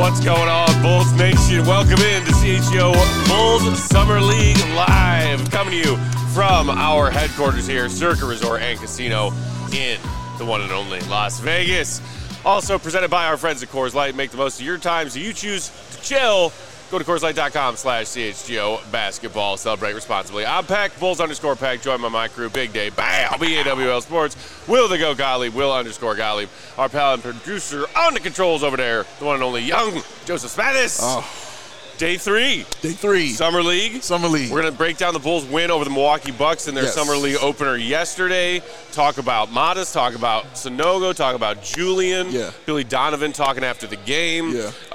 What's going on, Bulls Nation? Welcome in to CHGO Bulls Summer League Live. Coming to you from our headquarters here, Circa Resort and Casino in the one and only Las Vegas. Also presented by our friends at Coors Light. Make the most of your time so you choose to chill. Go to CoorsLight.com/CHGO basketball. Celebrate responsibly. I'm Peck, Bulls_Peck. Join my crew, Big Day. Bam! BAWL Sports. Will the Go Gottlieb. Will_Gottlieb. Our pal and producer on the controls over there, the one and only young Joseph Smathis. Day three. Summer League. We're going to break down the Bulls' win over the Milwaukee Bucks in their Summer League opener yesterday. Talk about Modest. Talk about Sanogo. Talk about Julian. Billy Donovan talking after the game.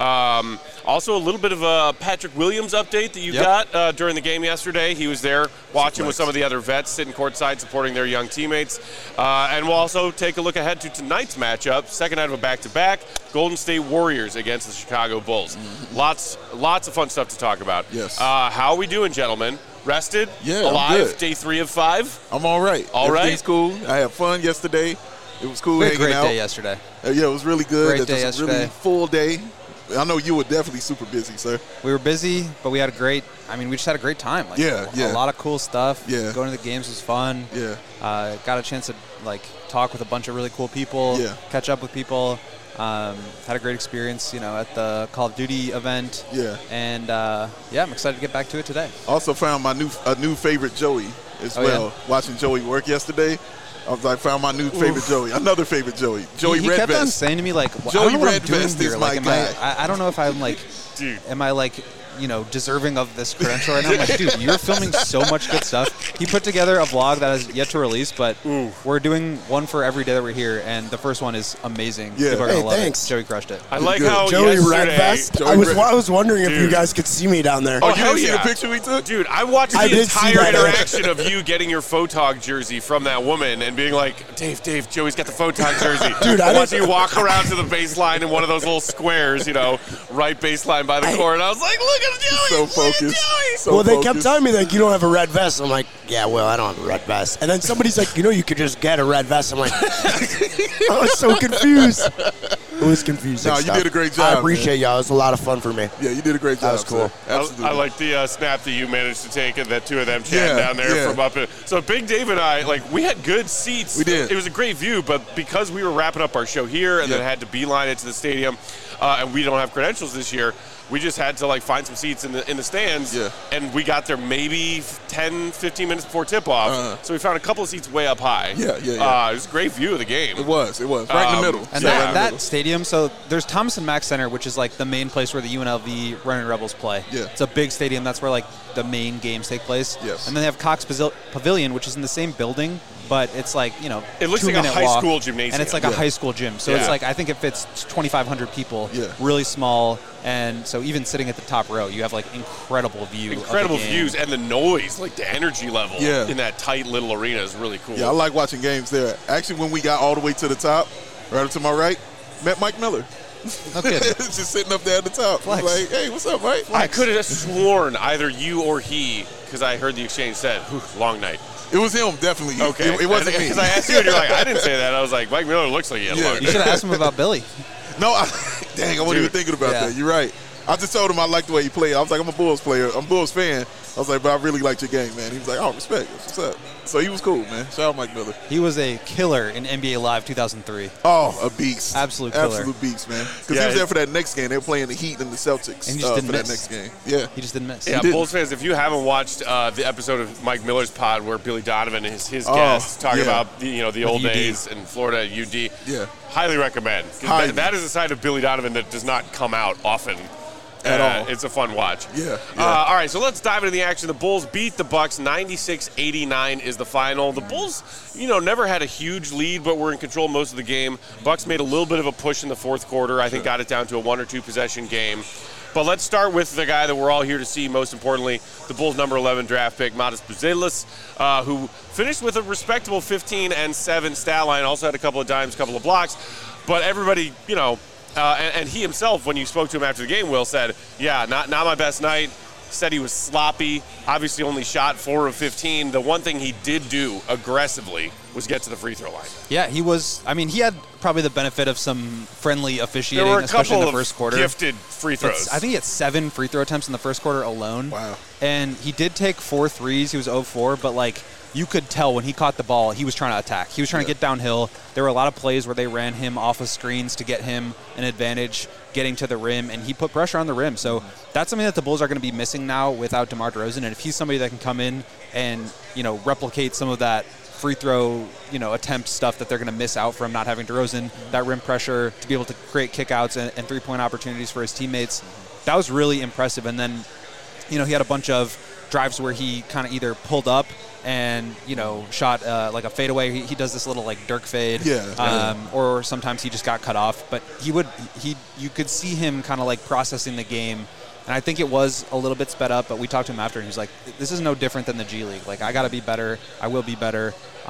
Also, a little bit of a Patrick Williams update that you got during the game yesterday. He was there watching with some of the other vets, sitting courtside, supporting their young teammates. And we'll also take a look ahead to tonight's matchup, second night of a back-to-back, Golden State Warriors against the Chicago Bulls. Lots of fun stuff to talk about. How are we doing, gentlemen? Rested? Alive? Day 3 of 5? I'm all right. Everything's cool. I had fun yesterday. It was cool hanging out. Great day yesterday. It was really good. Great day yesterday. Really full day. I know you were definitely super busy, sir. We were busy, but we had we just had a great time. A lot of cool stuff. Going to the games was fun. Got a chance to, talk with a bunch of really cool people, catch up with people. Had a great experience, at the Call of Duty event. And, I'm excited to get back to it today. Also found a new favorite Joey as well. Watching Joey work yesterday. I found my new favorite Joey. Another favorite Joey. Joey Redvest. He kept on saying to me, Joey Redvest is my guy. I don't know if I'm, dude. Am I, deserving of this credential right now? I'm like, dude, you're filming so much good stuff. He put together a vlog that is yet to release, but we're doing one for every day that we're here, and the first one is amazing. People are going to love it. Joey crushed it. I like how Joey Redvest. I was wondering if you guys could see me down there. Oh, you didn't see the picture we took? Dude, I watched the entire interaction of you getting your Photog jersey from that woman and being like, Dave, Joey's got the Photog jersey. Dude, I watched you walk around to the baseline in one of those little squares, right baseline by the court, and I was like, look at Joey. So focused. They kept telling me, you don't have a red vest. I'm like, yeah, well, I don't have a red vest. And then somebody's like, you could just get a red vest. I'm like, I was so confused. It was confusing. No, you did a great job. I appreciate y'all. It was a lot of fun for me. Yeah, you did a great job. That was cool. Absolutely. I like the snap that you managed to take and that two of them chatting down there from up in. So Big Dave and I, we had good seats. We did. It was a great view, but because we were wrapping up our show here and then had to beeline it to the stadium, and we don't have credentials this year, we just had to find some seats in the stands, and we got there maybe 10, 15 minutes before tip-off. So we found a couple of seats way up high. It was a great view of the game. It was right in the middle. And that stadium, so there's Thomas and Mack Center, which is the main place where the UNLV Running Rebels play. It's a big stadium. That's where the main games take place. And then they have Cox Pavilion, which is in the same building, but it's it looks like a high school gymnasium, and it's a high school gym. So it's I think it fits 2,500 people. Really small. And so even sitting at the top row, you have incredible views, and the noise, the energy level in that tight little arena is really cool. Yeah, I like watching games there. Actually, when we got all the way to the top, right up to my right, met Mike Miller. Okay. Just sitting up there at the top. Flex. Hey, what's up, Mike? I could have sworn either you or he, because I heard the exchange said, long night. It was him, definitely. Okay. It wasn't me. Because I asked you, and you're like, I didn't say that. I was like, Mike Miller looks like he had long night. You should have asked him about Billy. No, dang, I wasn't even thinking about that. You're right. I just told him I liked the way he played. I was like, I'm a Bulls player. I'm a Bulls fan. I was like, but I really liked your game, man. He was like, oh, respect. What's up? So he was cool, man. Shout out Mike Miller. He was a killer in NBA Live 2003. Oh, a beast. Absolute killer. Absolute beast, man. Because he was there for that next game. They were playing the Heat and the Celtics and he just didn't miss. That next game. Yeah. He just didn't miss. Yeah, Bulls fans, if you haven't watched the episode of Mike Miller's pod where Billy Donovan is his guest talking about the old days in Florida at UD, highly recommend. That is a side of Billy Donovan that does not come out often. At all. It's a fun watch. All right, so let's dive into the action. The Bulls beat the Bucks. 96-89 is the final. The Bulls, never had a huge lead, but were in control most of the game. Bucks made a little bit of a push in the fourth quarter. I think got it down to a 1 or 2 possession game. But let's start with the guy that we're all here to see, most importantly, the Bulls' number 11 draft pick, Modest Buzelis, who finished with a respectable 15-7 stat line, also had a couple of dimes, a couple of blocks. But everybody, and he himself, when you spoke to him after the game, Will, said, not my best night. Said he was sloppy. Obviously only shot 4 of 15. The one thing he did do aggressively was get to the free throw line. Yeah, he was. I mean, he had probably the benefit of some friendly officiating, there were a especially couple in the first quarter. Gifted free throws. I think he had 7 free throw attempts in the first quarter alone. Wow. And he did take 4 threes. He was 0-4, but like you could tell when he caught the ball, he was trying to attack. He was trying to get downhill. There were a lot of plays where they ran him off of screens to get him an advantage getting to the rim, and he put pressure on the rim. So that's something that the Bulls are going to be missing now without DeMar DeRozan. And if he's somebody that can come in and, replicate some of that free throw, attempt stuff that they're going to miss out from not having DeRozan, that rim pressure to be able to create kickouts and three-point opportunities for his teammates, that was really impressive. And then, he had a bunch of drives where he kind of either pulled up and, shot like a fadeaway. He does this little like Dirk fade. Or sometimes he just got cut off. But you could see him kind of like processing the game. And I think it was a little bit sped up, but we talked to him after, and he was like, this is no different than the G League. Like, I got to be better. I will be better.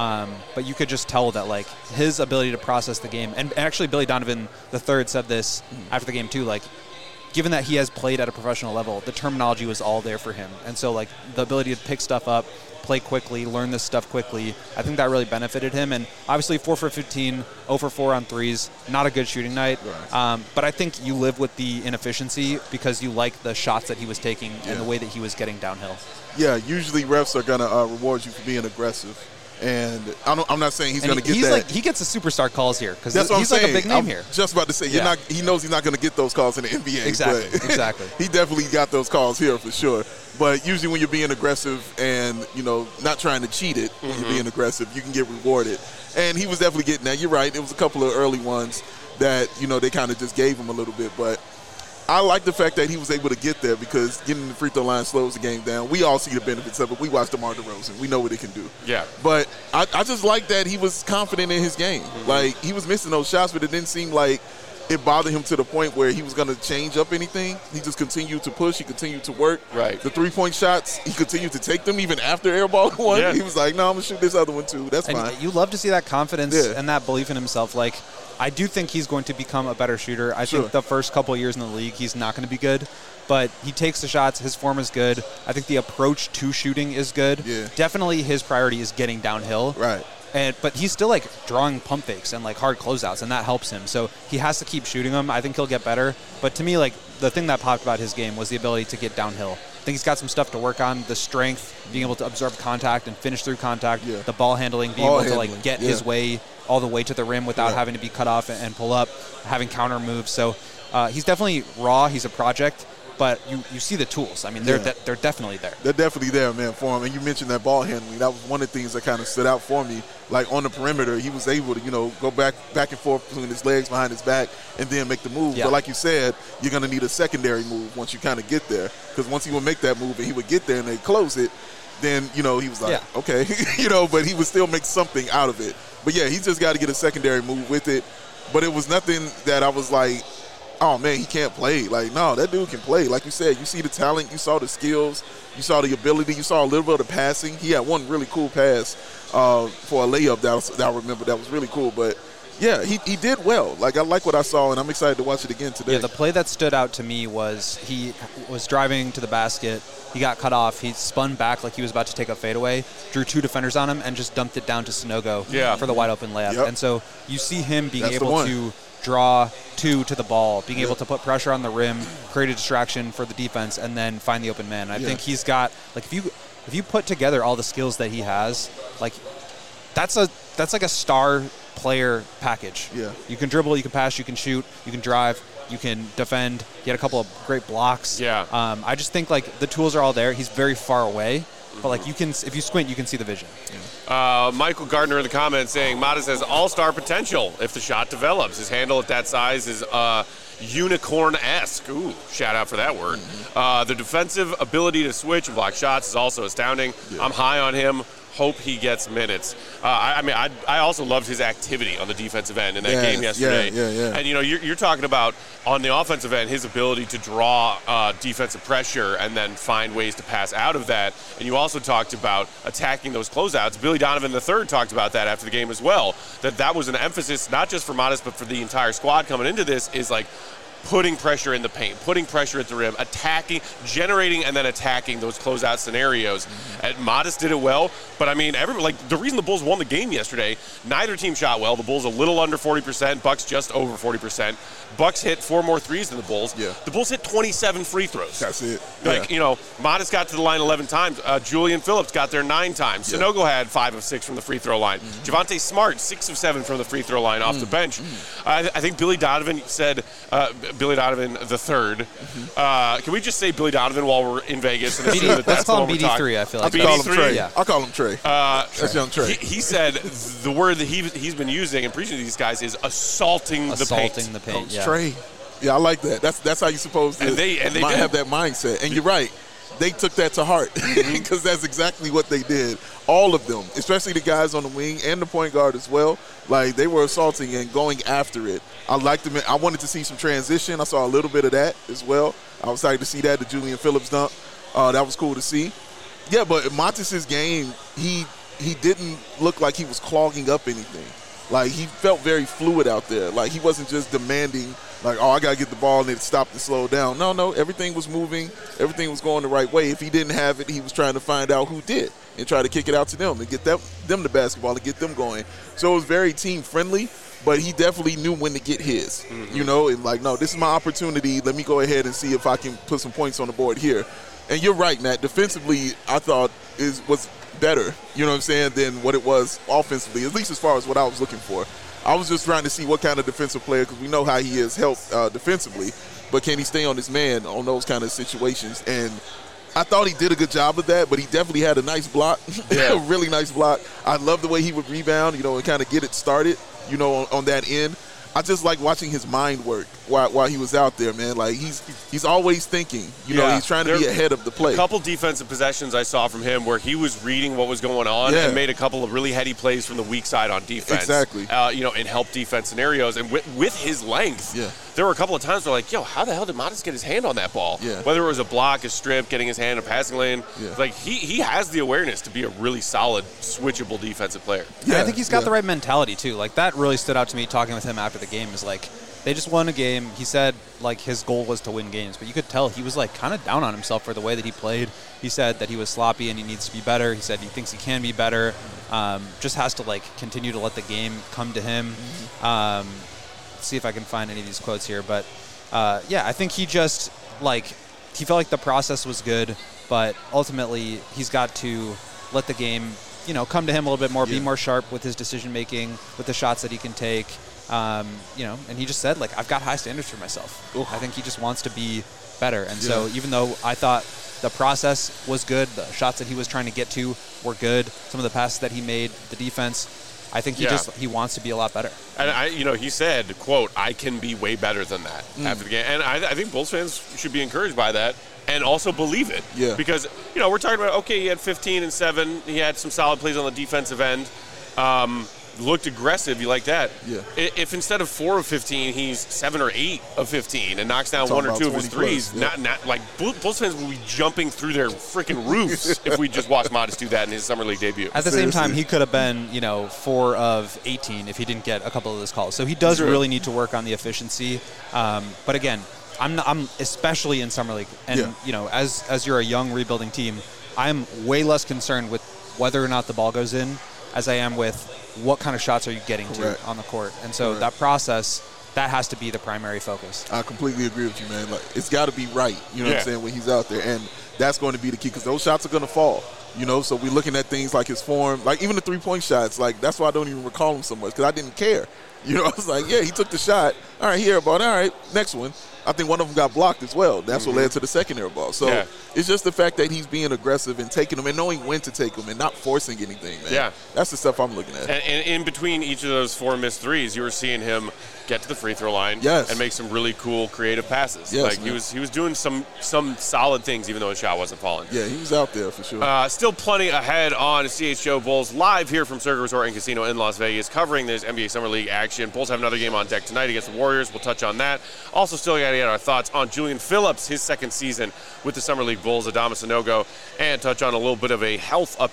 But you could just tell that, like, his ability to process the game. And actually, Billy Donovan III said this after the game, too. Like, given that he has played at a professional level, the terminology was all there for him. And so, like, the ability to pick stuff up, play quickly, learn this stuff quickly, I think that really benefited him. And obviously 4 for 15, 0 for 4 on threes, not a good shooting night. Right. But I think you live with the inefficiency because you like the shots that he was taking and the way that he was getting downhill. Yeah, usually refs are going to reward you for being aggressive. And I'm not saying he's going to get that. Like, he gets the superstar calls here because he's like a big name here. Just about to say, he knows he's not going to get those calls in the NBA. Exactly. He definitely got those calls here for sure. But usually when you're being aggressive and, not trying to cheat it, when you're being aggressive, you can get rewarded. And he was definitely getting that. You're right. It was a couple of early ones that, they kind of just gave him a little bit. But I like the fact that he was able to get there because getting the free throw line slows the game down. We all see the benefits of it. We watch DeMar DeRozan. We know what it can do. Yeah. But I just like that he was confident in his game. Like, he was missing those shots, but it didn't seem like it bothered him to the point where he was going to change up anything. He just continued to push. He continued to work. Right. The three-point shots, he continued to take them even after airball one. Yeah. He was like, no, I'm going to shoot this other one too. That's fine. You love to see that confidence and that belief in himself. Like, I do think he's going to become a better shooter. I think the first couple of years in the league, he's not going to be good. But he takes the shots. His form is good. I think the approach to shooting is good. Yeah. Definitely his priority is getting downhill. Right. But he's still, like, drawing pump fakes and, like, hard closeouts, and that helps him. So he has to keep shooting them. I think he'll get better. But to me, like, the thing that popped about his game was the ability to get downhill. I think he's got some stuff to work on, the strength, being able to absorb contact and finish through contact, the ball handling, being able to, like, get his way all the way to the rim without having to be cut off and pull up, having counter moves. So he's definitely raw. He's a project. But you see the tools. I mean, they're definitely there. They're definitely there, man, for him. And you mentioned that ball handling. That was one of the things that kind of stood out for me. Like, on the perimeter, he was able to, go back and forth between his legs, behind his back, and then make the move. Yeah. But like you said, you're going to need a secondary move once you kind of get there. Because once he would make that move and he would get there and they close it, then, he was like, okay. But he would still make something out of it. But, yeah, he's just got to get a secondary move with it. But it was nothing that I was like, oh, man, he can't play. Like, no, that dude can play. Like you said, you see the talent, you saw the skills, you saw the ability, you saw a little bit of the passing. He had one really cool pass for a layup that I remember that was really cool. But, yeah, he did well. Like, I like what I saw, and I'm excited to watch it again today. Yeah, the play that stood out to me was he was driving to the basket. He got cut off. He spun back like he was about to take a fadeaway, drew 2 defenders on him, and just dumped it down to Sanogo for the wide-open layup. Yep. And so you see him being able to draw 2 to the ball, being able to put pressure on the rim, create a distraction for the defense, and then find the open man. I think he's got, like, if you put together all the skills that he has, like, that's like a star player package. Yeah. You can dribble, you can pass, you can shoot, you can drive, you can defend. He had a couple of great blocks. Yeah. I just think, like, the tools are all there. He's very far away. But, like, if you squint, you can see the vision. Yeah. Michael Gardner in the comments saying, Matas has all-star potential if the shot develops. His handle at that size is unicorn-esque. Ooh, shout out for that word. The defensive ability to switch and block shots is also astounding. Yeah. I'm high on him. Hope he gets minutes. I also loved his activity on the defensive end in that game yesterday. Yeah. And, you're talking about, on the offensive end, his ability to draw defensive pressure and then find ways to pass out of that. And you also talked about attacking those closeouts. Billy Donovan III talked about that after the game as well, that was an emphasis not just for Matas but for the entire squad coming into this, is like, putting pressure in the paint, putting pressure at the rim, attacking, generating, and then attacking those closeout scenarios. And Modest did it well, but I mean, the reason the Bulls won the game yesterday, neither team shot well. The Bulls a little under 40%, Bucks just over 40%. Bucks hit 4 more threes than the Bulls. Yeah. The Bulls hit 27 free throws. That's it. Modest got to the line 11 times. Julian Phillips got there 9 times. Yeah. Sunogo had 5 of 6 from the free throw line. Javonte Smart, 6 of 7 from the free throw line off the bench. I think Billy Donovan said, Billy Donovan the third. Can we just say Billy Donovan while we're in Vegas? And let's call him BD3, I feel like. I'll call him Trey. Yeah. I'll call him Trey. That's young Trey. He said the word that he's been using and preaching to these guys is assaulting the paint. Assaulting the paint, yeah. Trey. Yeah, I like that. That's how you're supposed to have that mindset. And you're right. They took that to heart because that's exactly what they did. All of them, especially the guys on the wing and the point guard as well. Like, they were assaulting and going after it. I liked them. I wanted to see some transition. I saw a little bit of that as well. I was excited to see that, the Julian Phillips dunk. That was cool to see. Yeah, but Montes' game, he didn't look like he was clogging up anything. Like, he felt very fluid out there. Like, he wasn't just demanding, like, I got to get the ball and it stopped and slow down. No, everything was moving. Everything was going the right way. If he didn't have it, he was trying to find out who did and try to kick it out to them and get them the basketball and get them going. So it was very team-friendly, but he definitely knew when to get his, and like, no, this is my opportunity. Let me go ahead and see if I can put some points on the board here. And you're right, Matt. Defensively, I thought was better, than what it was offensively, at least as far as what I was looking for. I was just trying to see what kind of defensive player, because we know how he is helped defensively, but can he stay on his man on those kind of situations? And I thought he did a good job of that, but he definitely had a nice block, a really nice block. I love the way he would rebound, and kind of get it started, on that end. I just like watching his mind work while he was out there, man. Like, he's always thinking, he's trying to be ahead of the play. A couple defensive possessions I saw from him where he was reading what was going on and made a couple of really heady plays from the weak side on defense. Exactly. In help defense scenarios. And with his length, there were a couple of times where like, how the hell did Modest get his hand on that ball? Yeah. Whether it was a block, a strip, getting his hand in a passing lane. Yeah. Like, he has the awareness to be a really solid, switchable defensive player. Yeah, I think he's got the right mentality, too. Like, that really stood out to me talking with him after the game is like, they just won a game. He said, like, his goal was to win games. But you could tell he was, like, kind of down on himself for the way that he played. He said that he was sloppy and he needs to be better. He said he thinks he can be better. Just has to, like, continue to let the game come to him. See if I can find any of these quotes here. But, I think he just, like, he felt like the process was good. But ultimately, he's got to let the game, come to him a little bit more, be more sharp with his decision-making, with the shots that he can take. And he just said, like, I've got high standards for myself. I think he just wants to be better. And so even though I thought the process was good, the shots that he was trying to get to were good, some of the passes that he made, the defense, I think he wants to be a lot better. And he said, quote, I can be way better than that after the game. And I think Bulls fans should be encouraged by that and also believe it. Yeah. Because, we're talking about, okay, he had 15 and 7. He had some solid plays on the defensive end. Looked aggressive, you like that. Yeah. If instead of 4 of 15, he's 7 or 8 of 15 and knocks down 1 or 2 of his threes, plus, not like Bulls fans will be jumping through their freaking roofs if we just watched Modest do that in his summer league debut. At the same time, he could have been, 4 of 18 if he didn't get a couple of those calls. So he does really need to work on the efficiency. But again, I'm especially in summer league, and as you're a young rebuilding team, I'm way less concerned with whether or not the ball goes in as I am with what kind of shots are you getting to on the court. And so that process, that has to be the primary focus. I completely agree with you, man. Like, it's got to be right, what I'm saying, when he's out there. And that's going to be the key because those shots are going to fall, So we're looking at things like his form, like even the three-point shots. Like, that's why I don't even recall him so much because I didn't care. I was like, he took the shot. All right, he airballed. All right, next one. I think one of them got blocked as well. That's what led to the second air ball. So it's just the fact that he's being aggressive and taking them and knowing when to take them and not forcing anything, man. Yeah. That's the stuff I'm looking at. And in between each of those 4 missed threes, you were seeing him get to the free throw line and make some really cool creative passes. Yes, he was doing some solid things even though his shot wasn't falling. Yeah, he was out there for sure. Still plenty ahead on CHGO Bulls live here from Circa Resort and Casino in Las Vegas covering this NBA Summer League action. Bulls have another game on deck tonight against the Warriors. We'll touch on that. Also still got to get our thoughts on Julian Phillips, his second season with the Summer League Bulls, Adama Sanogo, and touch on a little bit of a health update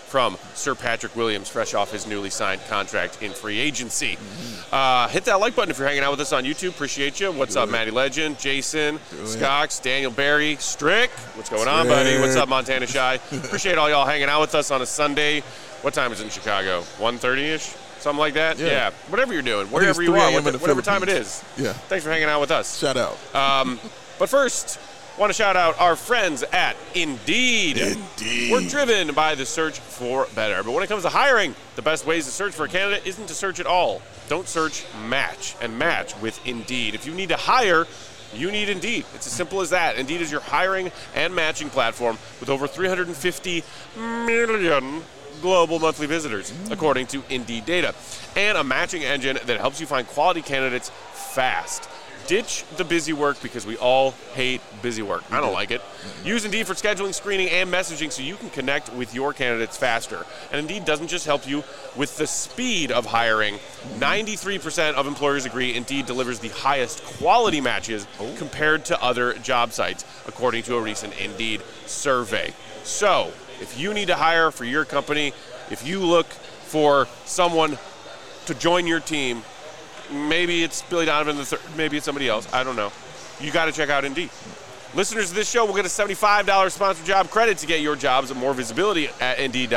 from Sir Patrick Williams, fresh off his newly signed contract in free agency. Hit that like button if you're hanging out with us on YouTube. Appreciate you. What's up, Matty Legend, Jason, Scocks, Daniel Barry, Strick. What's going on, buddy? What's up, Montana Shy? Appreciate all y'all hanging out with us on a Sunday. What time is it in Chicago? 1:30-ish? Something like that? Yeah. Whatever you're doing, wherever you are, whatever time it is. Yeah. Thanks for hanging out with us. Shout out. But first, want to shout out our friends at Indeed. Indeed. We're driven by the search for better. But when it comes to hiring, the best ways to search for a candidate isn't to search at all. Don't search, match. And match with Indeed. If you need to hire, you need Indeed. It's as simple as that. Indeed is your hiring and matching platform with over 350 million global monthly visitors, according to Indeed data, and a matching engine that helps you find quality candidates fast. Ditch the busy work because we all hate busy work. I don't like it. Use Indeed for scheduling, screening, and messaging so you can connect with your candidates faster. And Indeed doesn't just help you with the speed of hiring. 93% of employers agree Indeed delivers the highest quality matches compared to other job sites, according to a recent Indeed survey. So, if you need to hire for your company, if you look for someone to join your team, maybe it's Billy Donovan III, maybe it's somebody else, I don't know. You got to check out Indeed. Listeners of this show will get a $75 sponsored job credit to get your jobs and more visibility at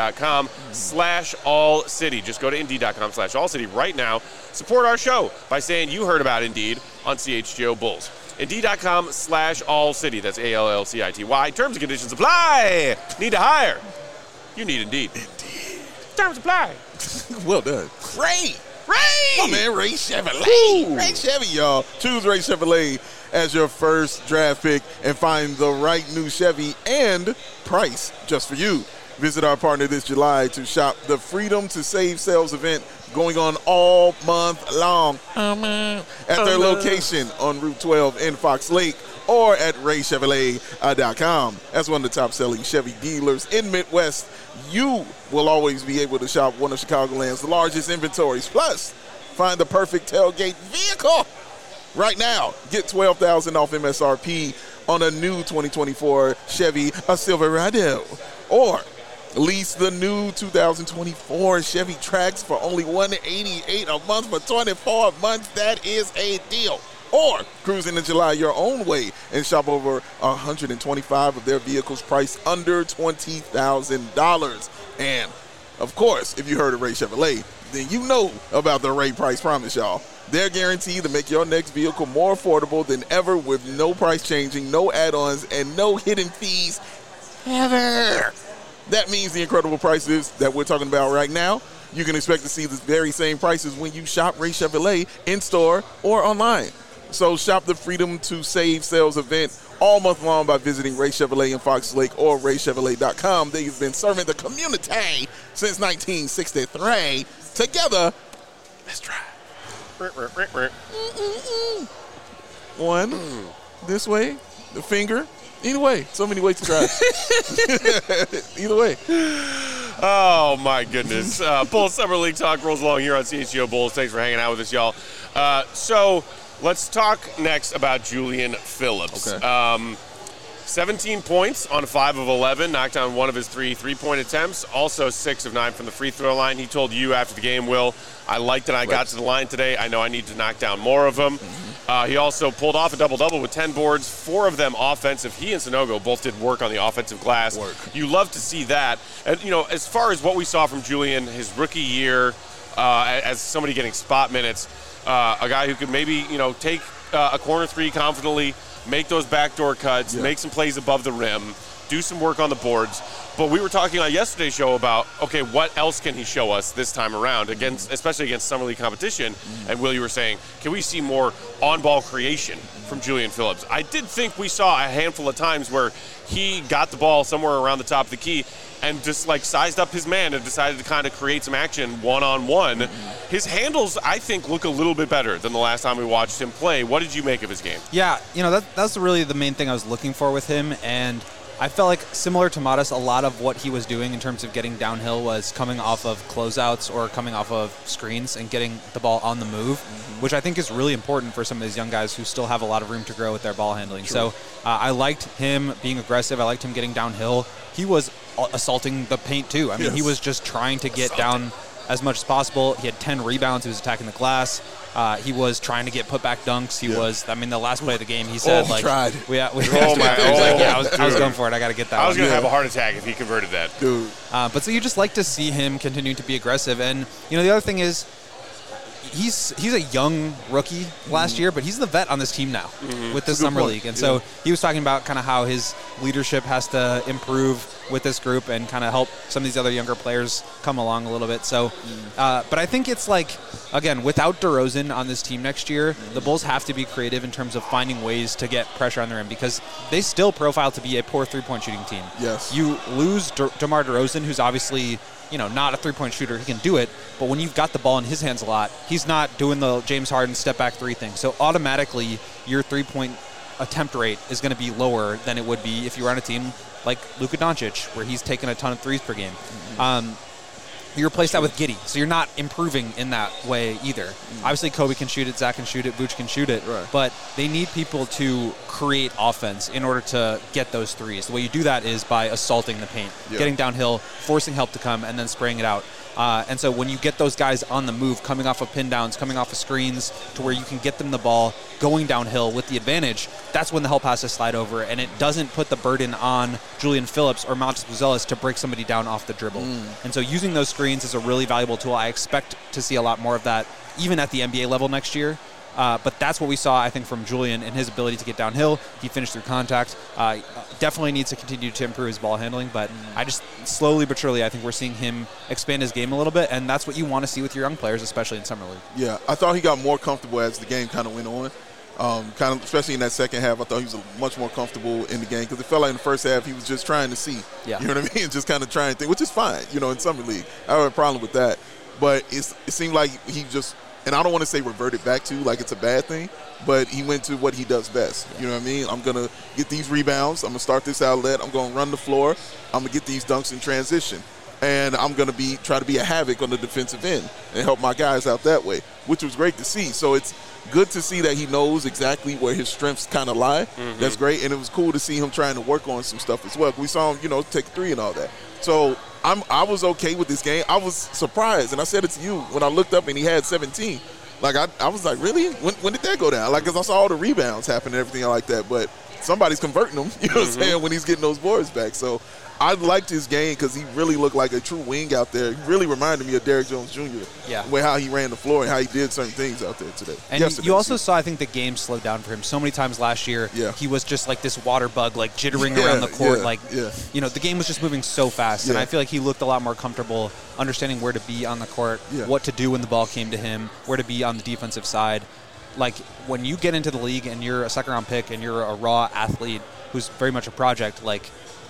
Indeed.com/AllCity. Just go to Indeed.com/AllCity right now. Support our show by saying you heard about Indeed on CHGO Bulls. Indeed.com/AllCity. That's ALLCITY. Terms and conditions apply. Need to hire? You need Indeed. Indeed. Terms apply. Well done. Ray! My man, Ray Chevrolet. Ray Chevy, y'all. Choose Ray Chevrolet as your first draft pick and find the right new Chevy and price just for you. Visit our partner this July to shop the Freedom to Save sales event going on all month long at their location on Route 12 in Fox Lake or at RayChevrolet.com. As one of the top-selling Chevy dealers in Midwest, you will always be able to shop one of Chicagoland's largest inventories. Plus, find the perfect tailgate vehicle right now. Get $12,000 off MSRP on a new 2024 Chevy Silverado, or lease the new 2024 Chevy Trax for only $188 a month for 24 months. That is a deal. Or cruise into July your own way and shop over 125 of their vehicles priced under $20,000. And, of course, if you heard of Ray Chevrolet, then you know about the Ray Price Promise, y'all. They're guaranteed to make your next vehicle more affordable than ever with no price changing, no add-ons, and no hidden fees ever. That means the incredible prices that we're talking about right now, you can expect to see the very same prices when you shop Ray Chevrolet in-store or online. So shop the Freedom to Save sales event all month long by visiting Ray Chevrolet in Fox Lake or RayChevrolet.com. They've been serving the community since 1963. Together, let's try. One, this way, the finger. Either way, so many ways to try. Either way. Oh, my goodness. Bulls Summer League talk rolls along here on CHGO Bulls. Thanks for hanging out with us, y'all. So let's talk next about Julian Phillips. Okay. 17 points on 5 of 11, knocked down one of his 3 three-point attempts, also 6 of 9 from the free throw line. He told you after the game, Will, I liked that I got to the line today. I know I need to knock down more of them. He also pulled off a double-double with 10 boards, 4 of them offensive. He and Sanogo both did work on the offensive glass. You love to see that. And, you know, as far as what we saw from Julian, his rookie year, as somebody getting spot minutes, a guy who could maybe, you know, take a corner three confidently, make those backdoor cuts, make some plays above the rim, do some work on the boards. But we were talking on yesterday's show about, okay, what else can he show us this time around, especially against Summer League competition? And Will, you were saying, can we see more on-ball creation from Julian Phillips? I did think we saw a handful of times where he got the ball somewhere around the top of the key and just like sized up his man and decided to kind of create some action one-on-one. His handles, I think, look a little bit better than the last time we watched him play. What did you make of his game? Yeah, you know, that's really the main thing I was looking for with him, and I felt like, similar to Modest, a lot of what he was doing in terms of getting downhill was coming off of closeouts or coming off of screens and getting the ball on the move, which I think is really important for some of these young guys who still have a lot of room to grow with their ball handling. True. So I liked him being aggressive. I liked him getting downhill. He was assaulting the paint, too. I mean, he was just trying to get down as much as possible. He had 10 rebounds. He was attacking the glass. He was trying to get put-back dunks. He was, I mean, the last play of the game, he said, tried. I was going for it. I got to get that I was going to have a heart attack if he converted that. Dude. But so you just like to see him continue to be aggressive. And, the other thing is, he's a young rookie last year, but he's the vet on this team now with the Summer League. And so he was talking about kind of how his leadership has to improve with this group and kind of help some of these other younger players come along a little bit. So, but I think it's like, again, without DeRozan on this team next year, the Bulls have to be creative in terms of finding ways to get pressure on the rim because they still profile to be a poor three-point shooting team. Yes. You lose DeMar DeRozan, who's obviously not a three-point shooter. He can do it, but when you've got the ball in his hands a lot, he's not doing the James Harden step-back three thing. So automatically, your three-point attempt rate is going to be lower than it would be if you were on a team like Luka Doncic, where he's taking a ton of threes per game. You replace that with Giddey, so you're not improving in that way either. Obviously, Kobe can shoot it, Zach can shoot it, Vooch can shoot it, but they need people to create offense in order to get those threes. The way you do that is by assaulting the paint, getting downhill, forcing help to come, and then spraying it out. And so when you get those guys on the move, coming off of pin downs, coming off of screens, to where you can get them the ball going downhill with the advantage, that's when the help has to slide over, and it doesn't put the burden on Julian Phillips or Montes Buzelis to break somebody down off the dribble. And so using those screens is a really valuable tool. I expect to see a lot more of that even at the NBA level next year. But that's what we saw, I think, from Julian and his ability to get downhill. He finished through contact. Definitely needs to continue to improve his ball handling, but I just slowly but surely, I think we're seeing him expand his game a little bit, and that's what you want to see with your young players, especially in Summer League. Yeah, I thought he got more comfortable as the game kind of went on. Especially in that second half, I thought he was much more comfortable in the game because it felt like in the first half he was just trying to see. Yeah. You know what I mean? Just kind of trying to think, which is fine, in Summer League. I don't have a problem with that. But it seemed like he just – and I don't want to say reverted back to like it's a bad thing, but he went to what he does best. You know what I mean? I'm going to get these rebounds. I'm going to start this outlet. I'm going to run the floor. I'm going to get these dunks in transition. And I'm going to try to be a havoc on the defensive end and help my guys out that way, which was great to see. So it's good to see that he knows exactly where his strengths kind of lie. That's great. And it was cool to see him trying to work on some stuff as well. We saw him, take a three and all that. So I was okay with this game. I was surprised, and I said it to you when I looked up and he had 17. Like, I was like, really? When did that go down? Like, because I saw all the rebounds happen and everything like that. But somebody's converting them, you know what I'm saying, when he's getting those boards back. So I liked his game because he really looked like a true wing out there. He really reminded me of Derrick Jones Jr. Yeah. With how he ran the floor and how he did certain things out there today. And you also saw, I think, the game slowed down for him. So many times last year, he was just like this water bug, like jittering around the court. The game was just moving so fast. And I feel like he looked a lot more comfortable understanding where to be on the court, what to do when the ball came to him, where to be on the defensive side. Like, when you get into the league and you're a second-round pick and you're a raw athlete who's very much a project, like,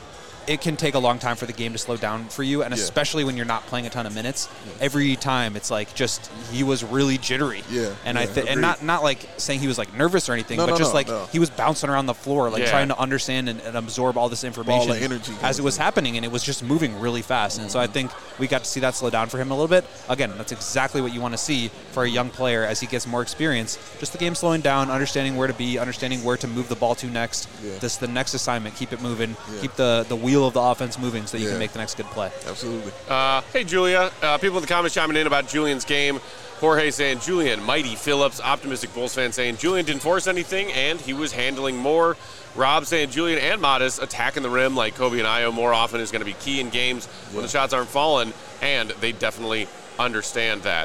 it can take a long time for the game to slow down for you, and especially when you're not playing a ton of minutes. Every time it's like just he was really jittery. And and not like saying he was like nervous or anything, but he was bouncing around the floor, like trying to understand and absorb all this information all the energy as it was happening, and it was just moving really fast. And so I think we got to see that slow down for him a little bit. Again, that's exactly what you want to see for a young player as he gets more experience. Just the game slowing down, understanding where to be, understanding where to move the ball to next. This the next assignment, keep it moving, keep the wheel of the offense moving so that you can make the next good play. Absolutely. Hey, Julia. People in the comments chiming in about Julian's game. Jorge saying, Julian, mighty Phillips. Optimistic Bulls fan saying, Julian didn't force anything, and he was handling more. Rob saying, Julian and Modest attacking the rim like Kobe and Ayo more often is going to be key in games when the shots aren't falling, and they definitely understand that.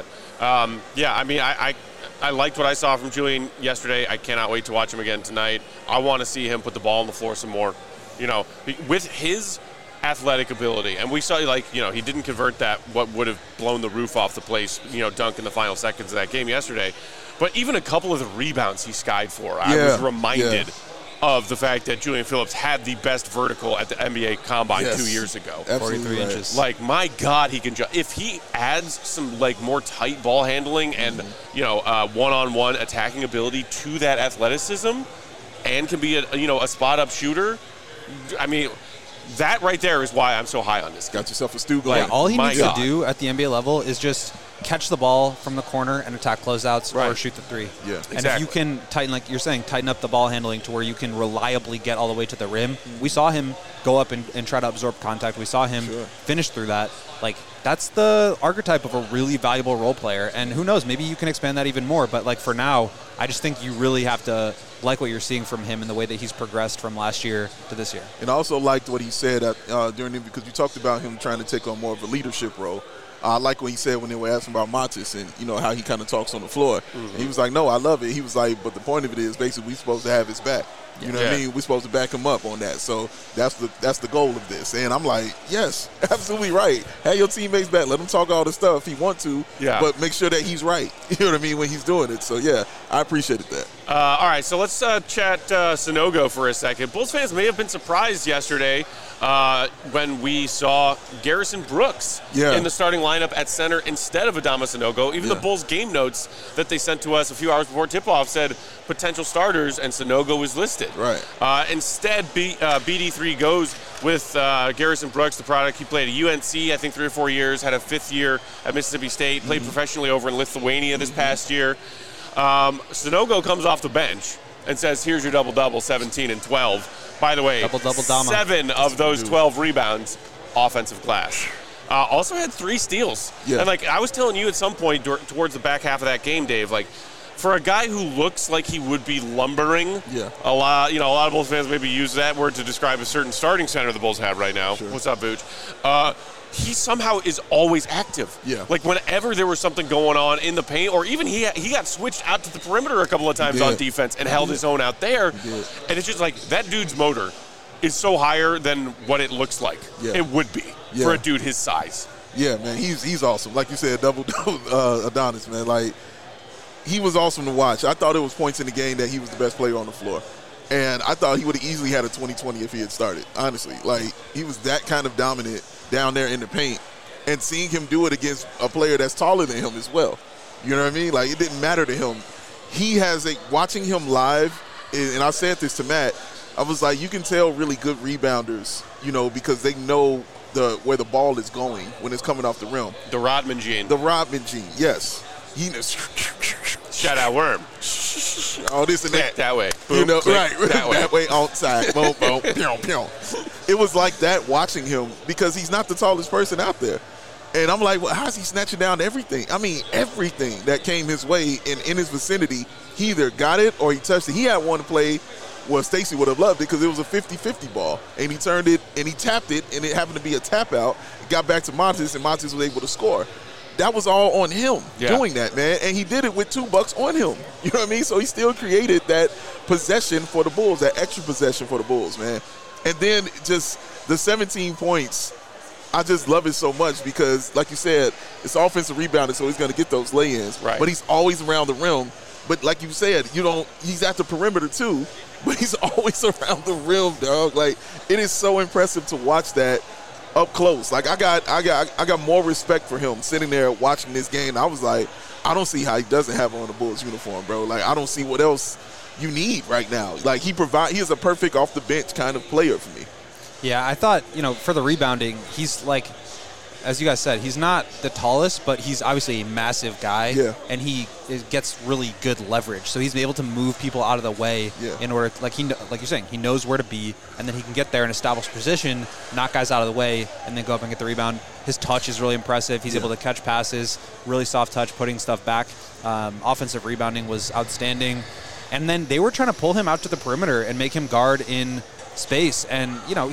I liked what I saw from Julian yesterday. I cannot wait to watch him again tonight. I want to see him put the ball on the floor some more. With his athletic ability, and we saw, he didn't convert that, what would have blown the roof off the place, dunk in the final seconds of that game yesterday. But even a couple of the rebounds he skied for, I was reminded of the fact that Julian Phillips had the best vertical at the NBA Combine 2 years ago. 43 inches. Like, my God, he can jump. If he adds some, more tight ball handling and, one-on-one attacking ability to that athleticism and can be a spot-up shooter, I mean, that right there is why I'm so high on this guy. Got yourself a stew going. All he needs to do at the NBA level is just catch the ball from the corner and attack closeouts or shoot the three. Yeah, and if you can tighten, like you're saying, tighten up the ball handling to where you can reliably get all the way to the rim. We saw him go up and try to absorb contact. We saw him finish through that. Like, that's the archetype of a really valuable role player. And who knows, maybe you can expand that even more. But, like, for now, I just think you really have to like what you're seeing from him in the way that he's progressed from last year to this year. And I also liked what he said during the, because you talked about him trying to take on more of a leadership role. I like what he said when they were asking about Montes and, you know, how he kind of talks on the floor. And he was like, no, I love it. He was like, but the point of it is basically we're supposed to have his back. You know what I mean? We're supposed to back him up on that. So that's the goal of this. And I'm like, yes, absolutely right. Have your teammates back. Let him talk all the stuff he want to, but make sure that he's right. You know what I mean? When he's doing it. So, yeah, I appreciated that. All right, so let's chat Sanogo for a second. Bulls fans may have been surprised yesterday when we saw Garrison Brooks in the starting lineup at center instead of Adama Sanogo. Even the Bulls game notes that they sent to us a few hours before tip-off said potential starters, and Sanogo was listed. Right. Instead, BD3 goes with Garrison Brooks, the product. He played at UNC, I think, 3 or 4 years, had a 5th year at Mississippi State, played professionally over in Lithuania this past year. Sanogo comes off the bench and says, here's your double-double, 17 and 12. By the way, double-double Dama. 7 of those 12 rebounds, offensive glass. Also had 3 steals. Yeah. And, like, I was telling you at some point towards the back half of that game, Dave, like, for a guy who looks like he would be lumbering, a lot of Bulls fans maybe use that word to describe a certain starting center the Bulls have right now. Sure. What's up, Booch? He somehow is always active. Yeah. Like, whenever there was something going on in the paint, or even he got switched out to the perimeter a couple of times on defense and held his own out there. And it's just like, that dude's motor is so higher than what it looks like it would be for a dude his size. Yeah, man, he's awesome. Like you said, double-double Adonis, man. Like, he was awesome to watch. I thought it was points in the game that he was the best player on the floor. And I thought he would have easily had a 20-20 if he had started, honestly. Like, he was that kind of dominant down there in the paint. And seeing him do it against a player that's taller than him as well. You know what I mean? Like, it didn't matter to him. He has watching him live, and I said this to Matt, I was like, you can tell really good rebounders, you know, because they know where the ball is going when it's coming off the rim. The Rodman gene. The Rodman gene, yes. He knows. Shout out Worm. All this and that. That way. Boom, you know, click, right. That way outside. Boom, boom, pew, pew. It was like that watching him because he's not the tallest person out there. And I'm like, well, how's he snatching down everything? I mean, everything that came his way in his vicinity, he either got it or he touched it. He had one play where Stacey would have loved it because it was a 50-50 ball. And he turned it and he tapped it, and it happened to be a tap out. It got back to Montes, and Montes was able to score. That was all on him doing that, man. And he did it with $2 on him. You know what I mean? So he still created that possession for the Bulls, that extra possession for the Bulls, man. And then just the 17 points, I just love it so much because, like you said, it's offensive rebounding, so he's going to get those lay-ins. Right. But he's always around the rim. But like you said, he's at the perimeter too, but he's always around the rim, dog. Like, it is so impressive to watch that up close. Like, I got more respect for him sitting there watching this game. I was like, I don't see how he doesn't have on the Bulls uniform, bro. Like, I don't see what else you need right now. Like, he is a perfect off the bench kind of player for me. Yeah, I thought, for the rebounding, he's like, as you guys said, he's not the tallest, but he's obviously a massive guy. Yeah. And he gets really good leverage. So he's able to move people out of the way in order, like you're saying, he knows where to be, and then he can get there and establish position, knock guys out of the way, and then go up and get the rebound. His touch is really impressive. He's able to catch passes, really soft touch, putting stuff back. Offensive rebounding was outstanding. And then they were trying to pull him out to the perimeter and make him guard in space. And,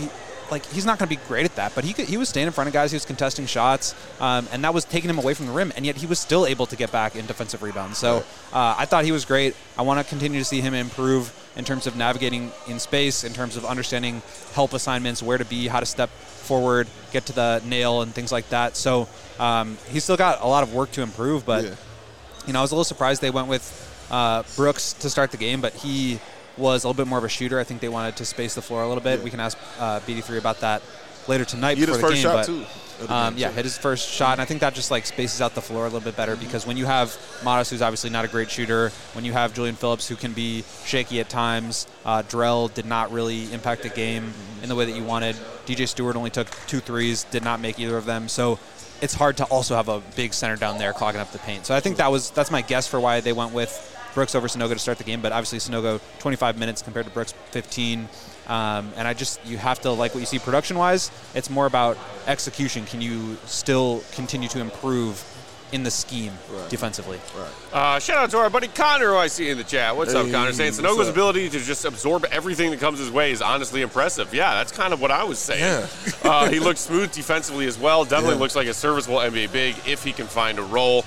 he's not going to be great at that, but he was staying in front of guys, he was contesting shots, and that was taking him away from the rim, and yet he was still able to get back in defensive rebounds. So I thought he was great. I want to continue to see him improve in terms of navigating in space, in terms of understanding help assignments, where to be, how to step forward, get to the nail, and things like that. So he's still got a lot of work to improve, but I was a little surprised they went with Brooks to start the game, but he was a little bit more of a shooter. I think they wanted to space the floor a little bit. We can ask BD3 about that. later tonight before the game. Hit his first shot, too. Hit his first shot, and I think that just like spaces out the floor a little bit better because when you have Matas, who's obviously not a great shooter, when you have Julian Phillips, who can be shaky at times, Drell did not really impact the game in the way that you wanted. DJ Stewart only took 2 threes, did not make either of them, so it's hard to also have a big center down there clogging up the paint. So I think that's my guess for why they went with Brooks over Sanogo to start the game, but obviously Sanogo 25 minutes compared to Brooks 15. And you have to like what you see production-wise. It's more about execution. Can you still continue to improve in the scheme defensively? Right. Shout out to our buddy Connor, who I see in the chat. What's up, Connor? Saying Sanogo's ability to just absorb everything that comes his way is honestly impressive. Yeah, that's kind of what I was saying. Yeah. He looks smooth defensively as well. Definitely looks like a serviceable NBA big if he can find a role.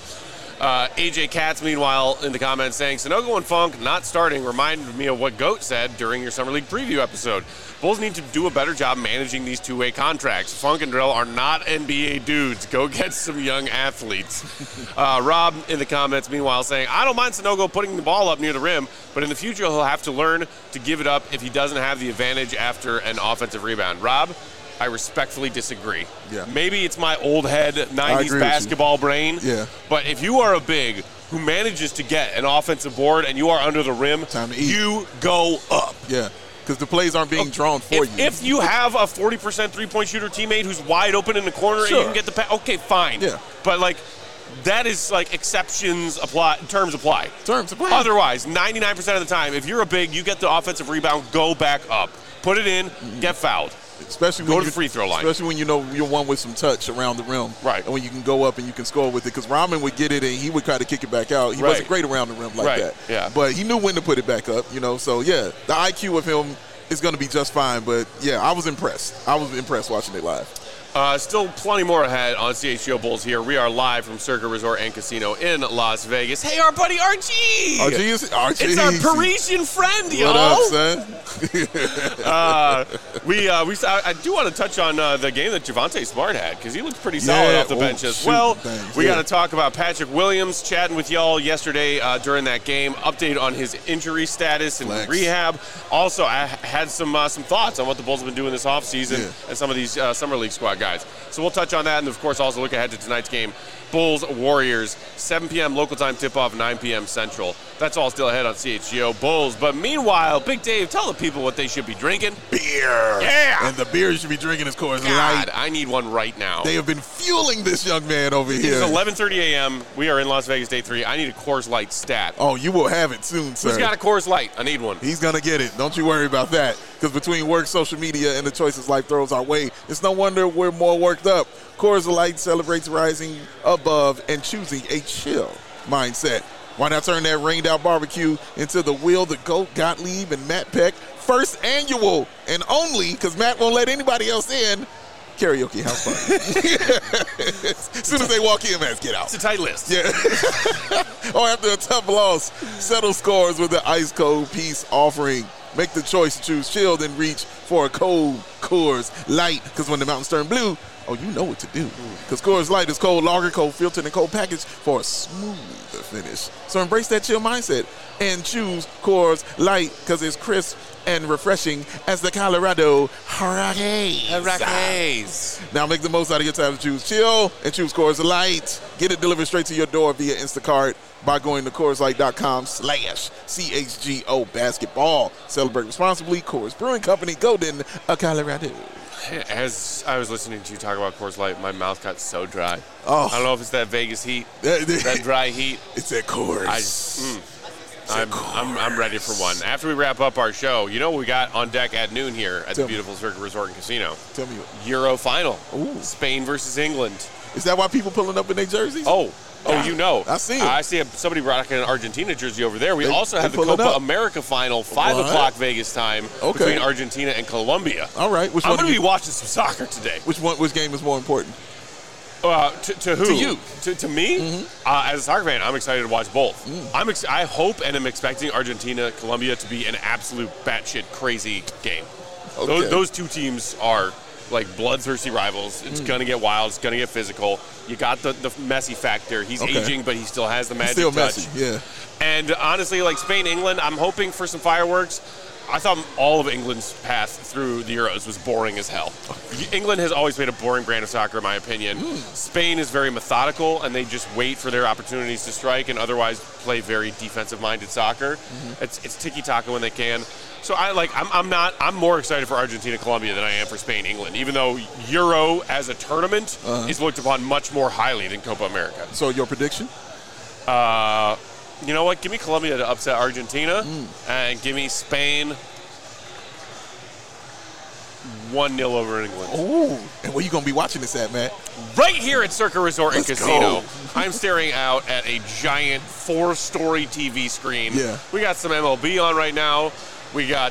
AJ Katz, meanwhile, in the comments saying, Sanogo and Funk not starting reminded me of what GOAT said during your Summer League preview episode. Bulls need to do a better job managing these two-way contracts. Funk and Drell are not NBA dudes. Go get some young athletes. Rob in the comments, meanwhile, saying, I don't mind Sanogo putting the ball up near the rim, but in the future he'll have to learn to give it up if he doesn't have the advantage after an offensive rebound. Rob, I respectfully disagree. Yeah. Maybe it's my old head 90s basketball brain. Yeah. But if you are a big who manages to get an offensive board and you are under the rim, you go up. Yeah. Because the plays aren't being drawn for you. If you have a 40% three-point shooter teammate who's wide open in the corner and you can get the pass, okay, fine. Yeah. But, like, that is like exceptions apply, terms apply. Terms apply. Otherwise, 99% of the time, if you're a big, you get the offensive rebound, go back up. Put it in, get fouled. Especially go to the free throw line. Especially when you know you're one with some touch around the rim. Right. And when you can go up and you can score with it. Because Rahman would get it and he would kind of kick it back out. He wasn't great around the rim like that. Yeah. But he knew when to put it back up, you know. So, yeah, the IQ of him is going to be just fine. But, yeah, I was impressed. I was impressed watching it live. Still plenty more ahead on CHGO Bulls here. We are live from Circa Resort and Casino in Las Vegas. Hey, our buddy Archie! Archie. It's our Parisian friend, y'all. What up, son? I do want to touch on the game that Javonte Smart had because he looked pretty solid off the bench as well. We got to talk about Patrick Williams chatting with y'all yesterday during that game. Update on his injury status and rehab. Also, I had some thoughts on what the Bulls have been doing this offseason and some of these Summer League squad guys. So we'll touch on that and, of course, also look ahead to tonight's game. Bulls-Warriors, 7 p.m. local time tip-off, 9 p.m. Central. That's all still ahead on CHGO Bulls. But meanwhile, Big Dave, tell the people what they should be drinking. Beer. Yeah. And the beer you should be drinking is Coors Light. God, I need one right now. They have been fueling this young man over here. It's 11:30 a.m. We are in Las Vegas, day 3. I need a Coors Light stat. Oh, you will have it soon, sir. Who's got a Coors Light? I need one. He's going to get it. Don't you worry about that. Because between work, social media, and the choices life throws our way, it's no wonder we're more worked up. Coors Light celebrates rising above and choosing a chill mindset. Why not turn that rained-out barbecue into the Will, the Goat, Gottlieb, and Matt Peck first annual and only, because Matt won't let anybody else in, karaoke house party. As soon as they walk in, man, get out. It's a tight list. Yeah. Or after a tough loss, settle scores with the ice cold peace offering. Make the choice to choose chill, then reach for a cold Coors Light. Because when the mountains turn blue, oh, you know what to do. Because Coors Light is cold lager, cold filtered, and cold packaged for a smoother finish. So embrace that chill mindset and choose Coors Light because it's crisp and refreshing as the Colorado Rockies. Now make the most out of your time to choose chill and choose Coors Light. Get it delivered straight to your door via Instacart by going to CoorsLight.com/CHGO basketball. Celebrate responsibly. Coors Brewing Company, Golden, Colorado. As I was listening to you talk about Coors Light, my mouth got so dry. Oh. I don't know if it's that Vegas heat, that dry heat. It's that Coors. I'm ready for one. After we wrap up our show, you know what we got on deck at noon here at the beautiful Circa Resort and Casino? Tell me what. Euro final. Ooh. Spain versus England. Is that why people pulling up in their jerseys? Oh, you know. I see it. I see somebody rocking an Argentina jersey over there. We also have the Copa America final, 5 o'clock Vegas time, between Argentina and Colombia. All right. I'm going to be watching some soccer today. Which game is more important? To who? To you. To me? Mm-hmm. As a soccer fan, I'm excited to watch both. I hope and am expecting Argentina-Colombia to be an absolute batshit crazy game. Okay. Those two teams are like bloodthirsty rivals. It's going to get wild. It's going to get physical. You got the Messi factor. He's aging, but he still has the magic touch. Messi, yeah. And honestly, like Spain, England, I'm hoping for some fireworks. I thought all of England's path through the Euros was boring as hell. England has always played a boring brand of soccer, in my opinion. Spain is very methodical, and they just wait for their opportunities to strike and otherwise play very defensive-minded soccer. It's tiki-taka when they can. So I'm more excited for Argentina-Colombia than I am for Spain-England, even though Euro as a tournament is looked upon much more highly than Copa America. So your prediction? You know what? Give me Colombia to upset Argentina, and give me Spain 1-0 over England. Ooh. And where you going to be watching this at, Matt? Right here at Circa Resort and Casino. I'm staring out at a giant 4-story TV screen. Yeah. We got some MLB on right now. We got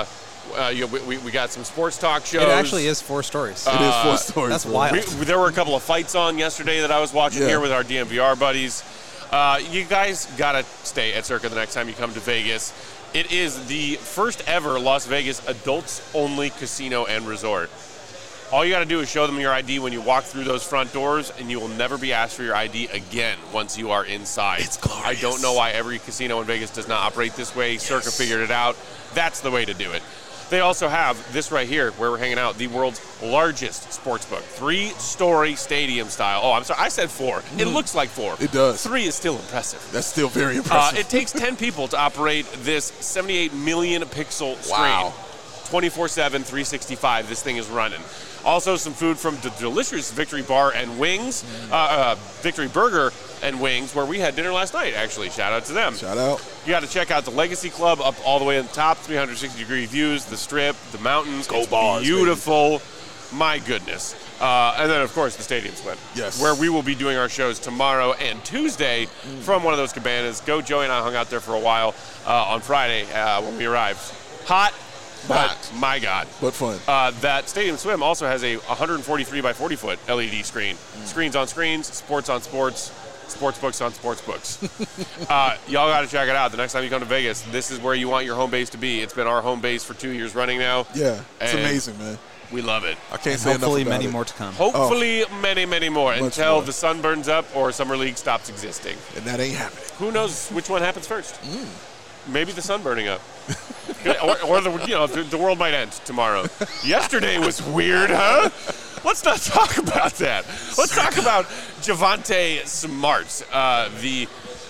we got some sports talk shows. It actually is 4 stories. It is 4 stories. That's wild. There were a couple of fights on yesterday that I was watching here with our DMVR buddies. You guys got to stay at Circa the next time you come to Vegas. It is the first ever Las Vegas adults-only casino and resort. All you got to do is show them your ID when you walk through those front doors, and you will never be asked for your ID again once you are inside. It's glorious. I don't know why every casino in Vegas does not operate this way. Yes. Circa figured it out. That's the way to do it. They also have this right here where we're hanging out, the world's largest sports book. 3-story stadium style. Oh, I'm sorry. I said 4. It looks like 4. It does. 3 is still impressive. That's still very impressive. It takes 10 people to operate this 78 million pixel screen. Wow. 24/7, 365, this thing is running. Also, some food from the delicious Victory Bar and Wings, Victory Burger and Wings, where we had dinner last night, actually. Shout out to them. Shout out. You got to check out the Legacy Club up all the way on the top, 360-degree views, the Strip, the mountains. Go Bars, beautiful. Baby. My goodness. And then, of course, the Stadium Swim. Yes. Where we will be doing our shows tomorrow and Tuesday from one of those cabanas. Joey and I hung out there for a while on Friday when we arrived. Hot. But my God. But fun. That Stadium Swim also has a 143 by 40 foot LED screen. Screens on screens, sports on sports, sports books on sports books. Y'all got to check it out. The next time you come to Vegas, this is where you want your home base to be. It's been our home base for 2 years running now. Yeah, it's amazing, man. We love it. I can't say enough about it. Hopefully many more to come. Hopefully many, many more until more. the sun burns up or Summer League stops existing. And that ain't happening. Who knows which one happens first? Maybe the sun burning up. or the world might end tomorrow. Yesterday was weird, huh? Let's not talk about that. Let's talk about Javonte Smart. The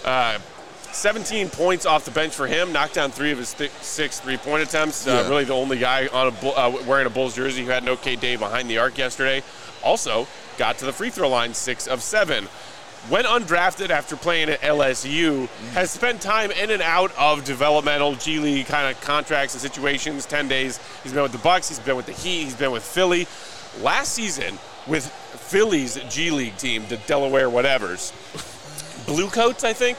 17 points off the bench for him, knocked down 3 of his 6 3-point attempts. Really the only guy on wearing a Bulls jersey who had an okay day behind the arc yesterday. Also got to the free throw line 6 of 7. Went undrafted after playing at LSU, has spent time in and out of developmental G League kind of contracts and situations, 10 days. He's been with the Bucks, he's been with the Heat, he's been with Philly. Last season, with Philly's G League team, the Delaware whatevers, Bluecoats, I think,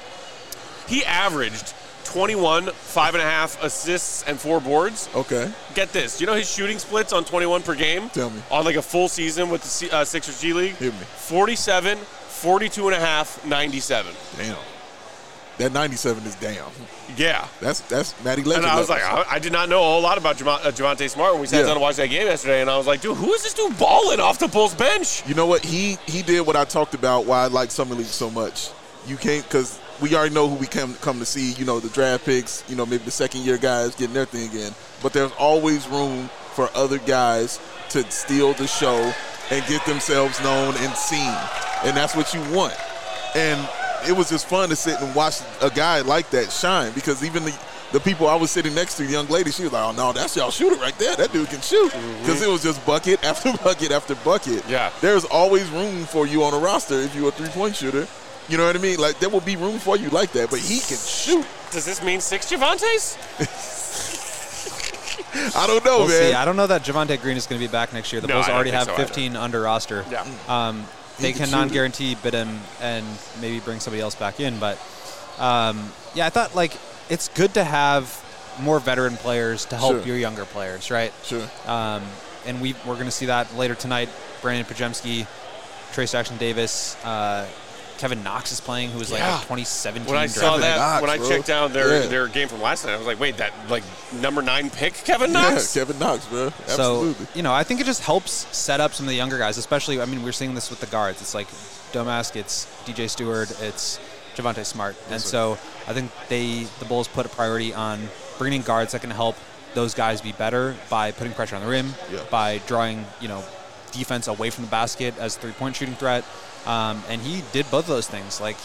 he averaged 21, 5.5 assists, and 4 boards. Okay. Get this. Do you know his shooting splits on 21 per game? Tell me. On like a full season with the Sixers G League? Hit me. 47, 42.5, 97. Damn. That 97 is damn. Yeah. That's Matty Legend. And I was like, I did not know a whole lot about Javonte Smart when we sat down to watch that game yesterday, and I was like, dude, who is this dude balling off the Bulls bench? You know what? He did what I talked about, why I like Summer League so much. You can't, because we already know who we come to see, the draft picks, maybe the second-year guys getting their thing in. But there's always room for other guys to steal the show and get themselves known and seen. And that's what you want. And it was just fun to sit and watch a guy like that shine, because even the people I was sitting next to, the young lady, she was like, oh, no, that's y'all shooter right there. That dude can shoot. Because it was just bucket after bucket after bucket. Yeah. There's always room for you on a roster if you're a three-point shooter. You know what I mean? Like, there will be room for you like that, but he can shoot. Does this mean 6 Javontes? I don't know, we'll man. See. I don't know that Javonte Green is going to be back next year. The Bulls already have 15 under roster. Yeah. They can non-guarantee bid him and maybe bring somebody else back in. But, I thought, it's good to have more veteran players to help your younger players, right? Sure. And we're going to see that later tonight. Brandon Pajemski, Trace Jackson-Davis, Kevin Knox is playing, who was a 2017 When I saw that, when I checked down their game from last night, I was like, wait, that number 9 pick, Kevin Knox? Yeah, Kevin Knox, bro. Absolutely. So, I think it just helps set up some of the younger guys, especially, we're seeing this with the guards. It's like Domask, it's DJ Stewart, it's Javonte Smart. And so I think the Bulls put a priority on bringing guards that can help those guys be better by putting pressure on the rim, by drawing, defense away from the basket as a three-point shooting threat. And he did both of those things. Like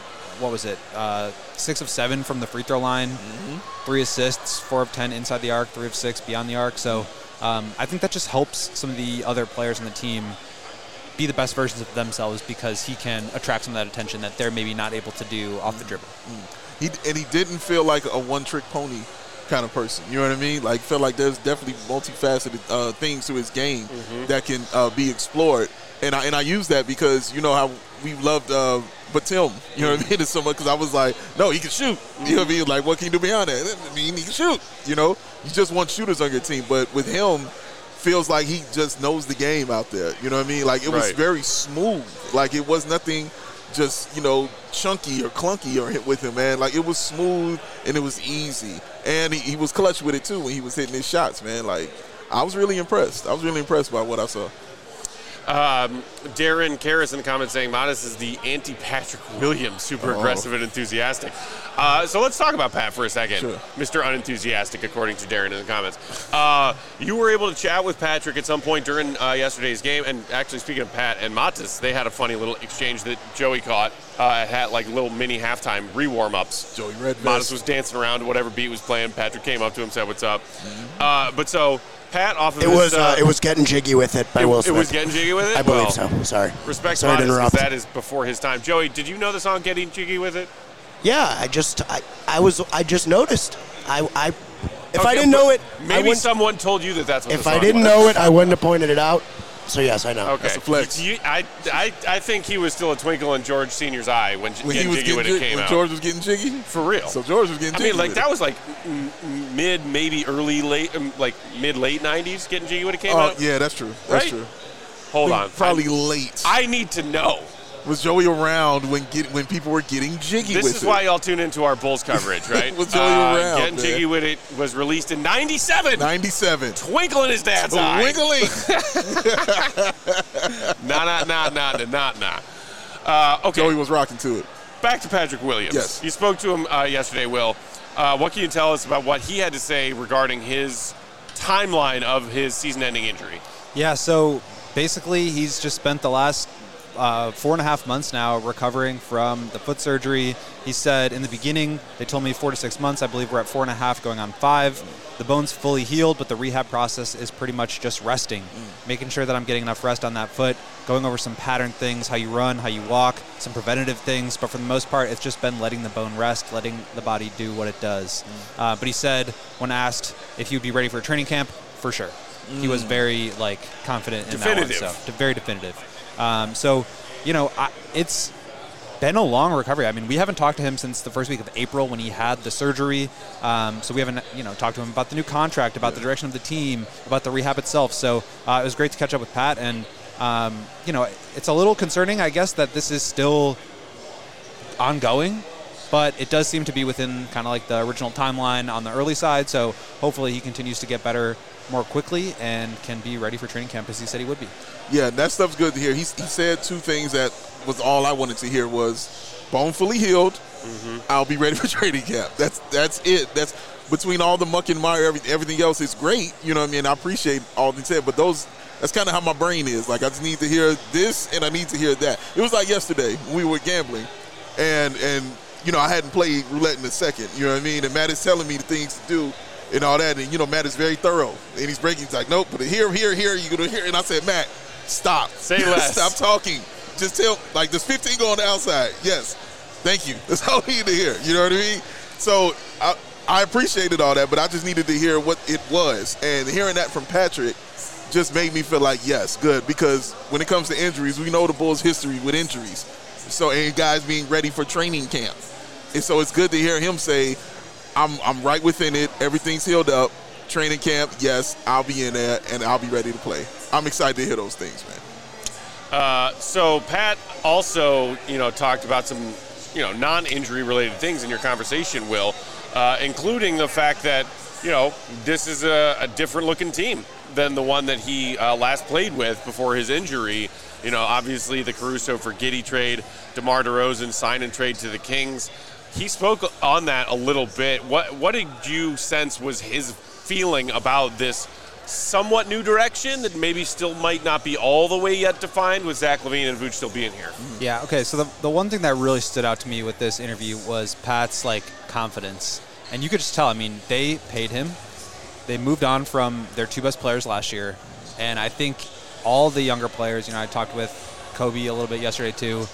6 of 7 from the free throw line, 3 assists, 4 of 10 inside the arc, 3 of 6 beyond the arc. So I think that just helps some of the other players on the team be the best versions of themselves because he can attract some of that attention that they're maybe not able to do off the dribble. He didn't feel like a one-trick pony kind of person. You know what I mean? Like, felt like there's definitely multifaceted things to his game that can be explored. And I use that because you know how we loved Batum. You know what I mean? It's someone because I was like, no, he can shoot. You know what I mean? Like, what can you do beyond that? I mean, he can shoot. You know, you just want shooters on your team. But with him, feels like he just knows the game out there. You know what I mean? Like, it was very smooth. Like, it was nothing just, chunky or clunky with him, man. Like, it was smooth and it was easy. And he was clutch with it, too, when he was hitting his shots, man. Like, I was really impressed. I was really impressed by what I saw. Darren Karras in the comments saying Matas is the anti-Patrick Williams, super aggressive and enthusiastic. So let's talk about Pat for a second. Sure. Mr. Unenthusiastic, according to Darren in the comments. You were able to chat with Patrick at some point during yesterday's game, and actually speaking of Pat and Matas, they had a funny little exchange that Joey caught. Had like little mini halftime re-warm-ups. Joey Red Matas was dancing around to whatever beat was playing. Patrick came up to him, said what's up. But so Pat off of it was Getting Jiggy with It by Will Smith. It was Getting Jiggy with It? I believe so. Sorry. Respect to Matas, that is before his time. Joey, did you know the song Getting Jiggy with It? Yeah, I just noticed. If I didn't know it, maybe someone told you that's what. If I didn't know it, I wouldn't have pointed it out. So yes, I know. Okay. That's a flex. I think he was still a twinkle in George Senior's eye when Getting Jiggy when it came out. George was getting jiggy? For real. So George was getting jiggy. I mean, like that was like mid 90s. Getting Jiggy when it came out. Yeah, that's true. That's true. Hold on. Probably late. I need to know. Was Joey around when people were getting jiggy with it? This is why y'all tune into our Bulls coverage, right? Was Joey around? Getting Jiggy with It was released in 97. 97. Twinkle in his dad's eye. Twinkling. Nah. Okay. Joey was rocking to it. Back to Patrick Williams. Yes. You spoke to him yesterday, Will. What can you tell us about what he had to say regarding his timeline of his season-ending injury? Yeah, so basically he's just spent the last 4.5 months now recovering from the foot surgery. He said in the beginning, they told me 4 to 6 months. I believe we're at 4.5 going on 5. The bone's fully healed, but the rehab process is pretty much just resting, making sure that I'm getting enough rest on that foot, going over some pattern things, how you run, how you walk, some preventative things. But for the most part, it's just been letting the bone rest, letting the body do what it does. But he said when asked if he would be ready for a training camp, for sure. He was very confident in that one. So very definitive. It's been a long recovery. I mean, we haven't talked to him since the first week of April when he had the surgery. So we haven't, talked to him about the new contract, about the direction of the team, about the rehab itself. So it was great to catch up with Pat. And, it's a little concerning, I guess, that this is still ongoing. But it does seem to be within kind of like the original timeline on the early side. So hopefully he continues to get better more quickly and can be ready for training camp as he said he would be. Yeah, that stuff's good to hear. He said 2 things that was all I wanted to hear was bone fully healed. I'll be ready for training camp. That's it. That's between all the muck and mire, everything else is great. You know what I mean? I appreciate all he said, but that's kind of how my brain is. Like, I just need to hear this and I need to hear that. It was like yesterday when we were gambling and I hadn't played roulette in a second. You know what I mean? And Matt is telling me the things to do and all that. And, Matt is very thorough. And he's breaking. He's like, nope, but here, you're going to hear. And I said, Matt, stop. Say less. Stop talking. Just tell, there's 15 going on the outside. Yes. Thank you. That's all we need to hear. You know what I mean? So I appreciated all that, but I just needed to hear what it was. And hearing that from Patrick just made me feel like, yes, good. Because when it comes to injuries, we know the Bulls' history with injuries. So, and guys being ready for training camp. And so it's good to hear him say, I'm right within it. Everything's healed up. Training camp, yes, I'll be in there, and I'll be ready to play. I'm excited to hear those things, man. So Pat also, talked about some, non-injury related things in your conversation, Will, including the fact that, this is a different looking team than the one that he last played with before his injury. Obviously the Caruso for Giddey trade, DeMar DeRozan sign and trade to the Kings. He spoke on that a little bit. What did you sense was his feeling about this somewhat new direction that maybe still might not be all the way yet defined with Zach LaVine and Vooch still being here? Yeah, okay, so the one thing that really stood out to me with this interview was Pat's, confidence. And you could just tell, I mean, they paid him. They moved on from their 2 best players last year. And I think all the younger players, I talked with Kobe a little bit yesterday too,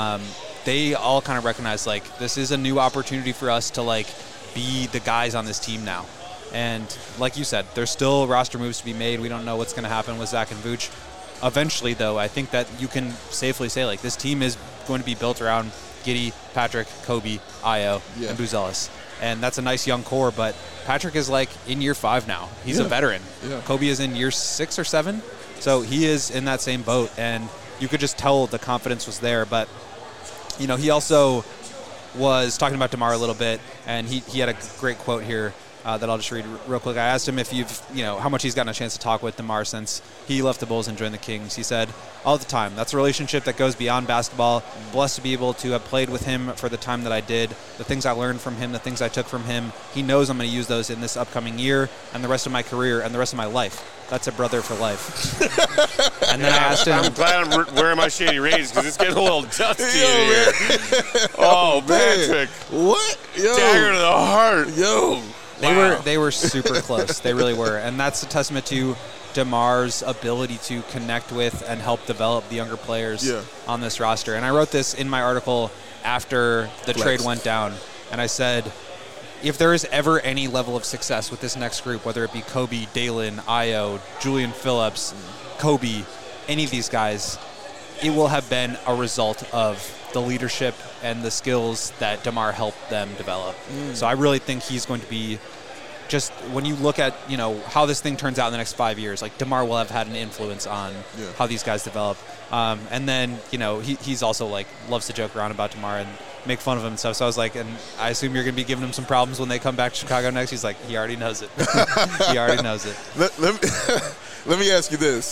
they all kind of recognize, this is a new opportunity for us to, be the guys on this team now. And like you said, there's still roster moves to be made. We don't know what's going to happen with Zach and Vooch. Eventually, though, I think that you can safely say, this team is going to be built around Giddey, Patrick, Kobe, Ayo, and Buzelis. And that's a nice young core, but Patrick is, in year 5 now. He's a veteran. Yeah. Kobe is in year 6 or 7, so he is in that same boat. And you could just tell the confidence was there. But, he also was talking about DeMar a little bit, and he had a great quote here. That I'll just read real quick. I asked him if how much he's gotten a chance to talk with DeMar since he left the Bulls and joined the Kings. He said, all the time, that's a relationship that goes beyond basketball. Blessed to be able to have played with him for the time that I did. The things I learned from him, the things I took from him, he knows I'm going to use those in this upcoming year and the rest of my career and the rest of my life. That's a brother for life. And then I asked him. I'm glad I'm wearing my Shady Rays because it's getting a little dusty in here. Oh, Patrick. What? Yo. Dagger to the heart. Yo. They were super close. They really were. And that's a testament to DeMar's ability to connect with and help develop the younger players on this roster. And I wrote this in my article after the trade went down. And I said, if there is ever any level of success with this next group, whether it be Kobe, Dalen, Ayo, Julian Phillips, Kobe, any of these guys, it will have been a result of the leadership and the skills that DeMar helped them develop. So I really think he's going to be just, when you look at, how this thing turns out in the next 5 years, DeMar will have had an influence on how these guys develop. And then, he's also loves to joke around about DeMar and make fun of him and stuff. So I was like, and I assume you're going to be giving him some problems when they come back to Chicago next. He's like, he already knows it. He already knows it. Let me ask you this.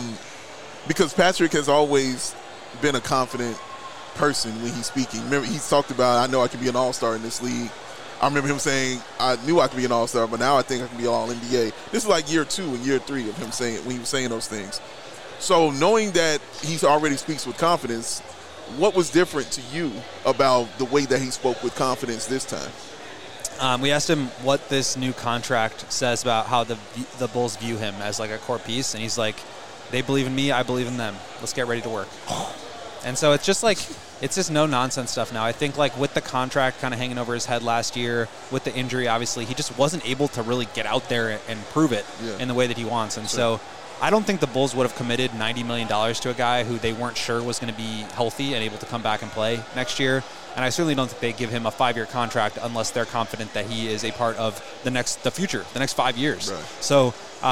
Because Patrick has always been a confident person when he's speaking. Remember, he's talked about, I know I can be an all-star in this league. I remember him saying, I knew I could be an all-star, but now I think I can be all-NBA. This is year 2 and year 3 of him saying, when he was saying those things. So knowing that he already speaks with confidence, what was different to you about the way that he spoke with confidence this time? We asked him what this new contract says about how the Bulls view him as a core piece, and he's like, they believe in me, I believe in them. Let's get ready to work. And so it's just it's just no-nonsense stuff now. I think with the contract kind of hanging over his head last year, with the injury, obviously, he just wasn't able to really get out there and prove it in the way that he wants. And so I don't think the Bulls would have committed $90 million to a guy who they weren't sure was going to be healthy and able to come back and play next year. And I certainly don't think they give him a 5-year contract unless they're confident that he is a part of the future, the next 5 years. Right. So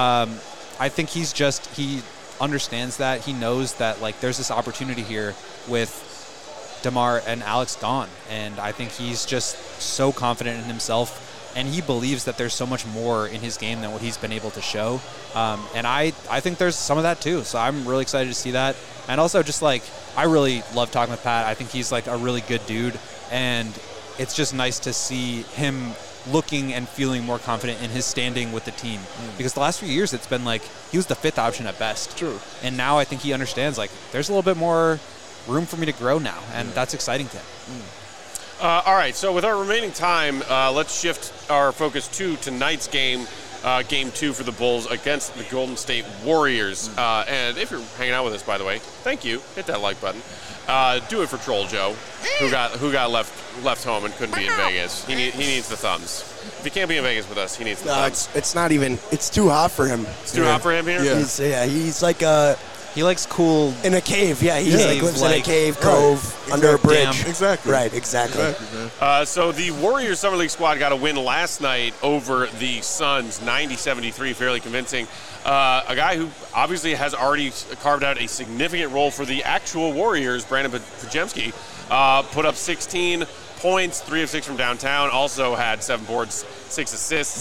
I think he understands that. He knows that there's this opportunity here with DeMar and Alex gone, and I think he's just so confident in himself, and he believes that there's so much more in his game than what he's been able to show, and I think there's some of that too, so I'm really excited to see that. And also just I really love talking with Pat. I think he's a really good dude, and it's just nice to see him looking and feeling more confident in his standing with the team. Because the last few years it's been he was the 5th option at best. True. And now I think he understands there's a little bit more room for me to grow now, and that's exciting to him. All right, so with our remaining time, let's shift our focus to tonight's game, Game 2 for the Bulls against the Golden State Warriors. And if you're hanging out with us, by the way, thank you. Hit that like button. Do it for Troll Joe, who got left home and couldn't be in Vegas. He needs the thumbs. If he can't be in Vegas with us, he needs the thumbs. It's not even. It's too hot for him. It's too hot for him here? Yeah. He's like a... He likes cool... In a cave, yeah. He lives in a cave, cove, under a bridge. Exactly. Right, exactly. So the Warriors Summer League squad got a win last night over the Suns, 90-73, fairly convincing. A guy who obviously has already carved out a significant role for the actual Warriors, Brandon Podziemski, put up 16 points, 3 of 6 from downtown, also had 7 boards, 6 assists.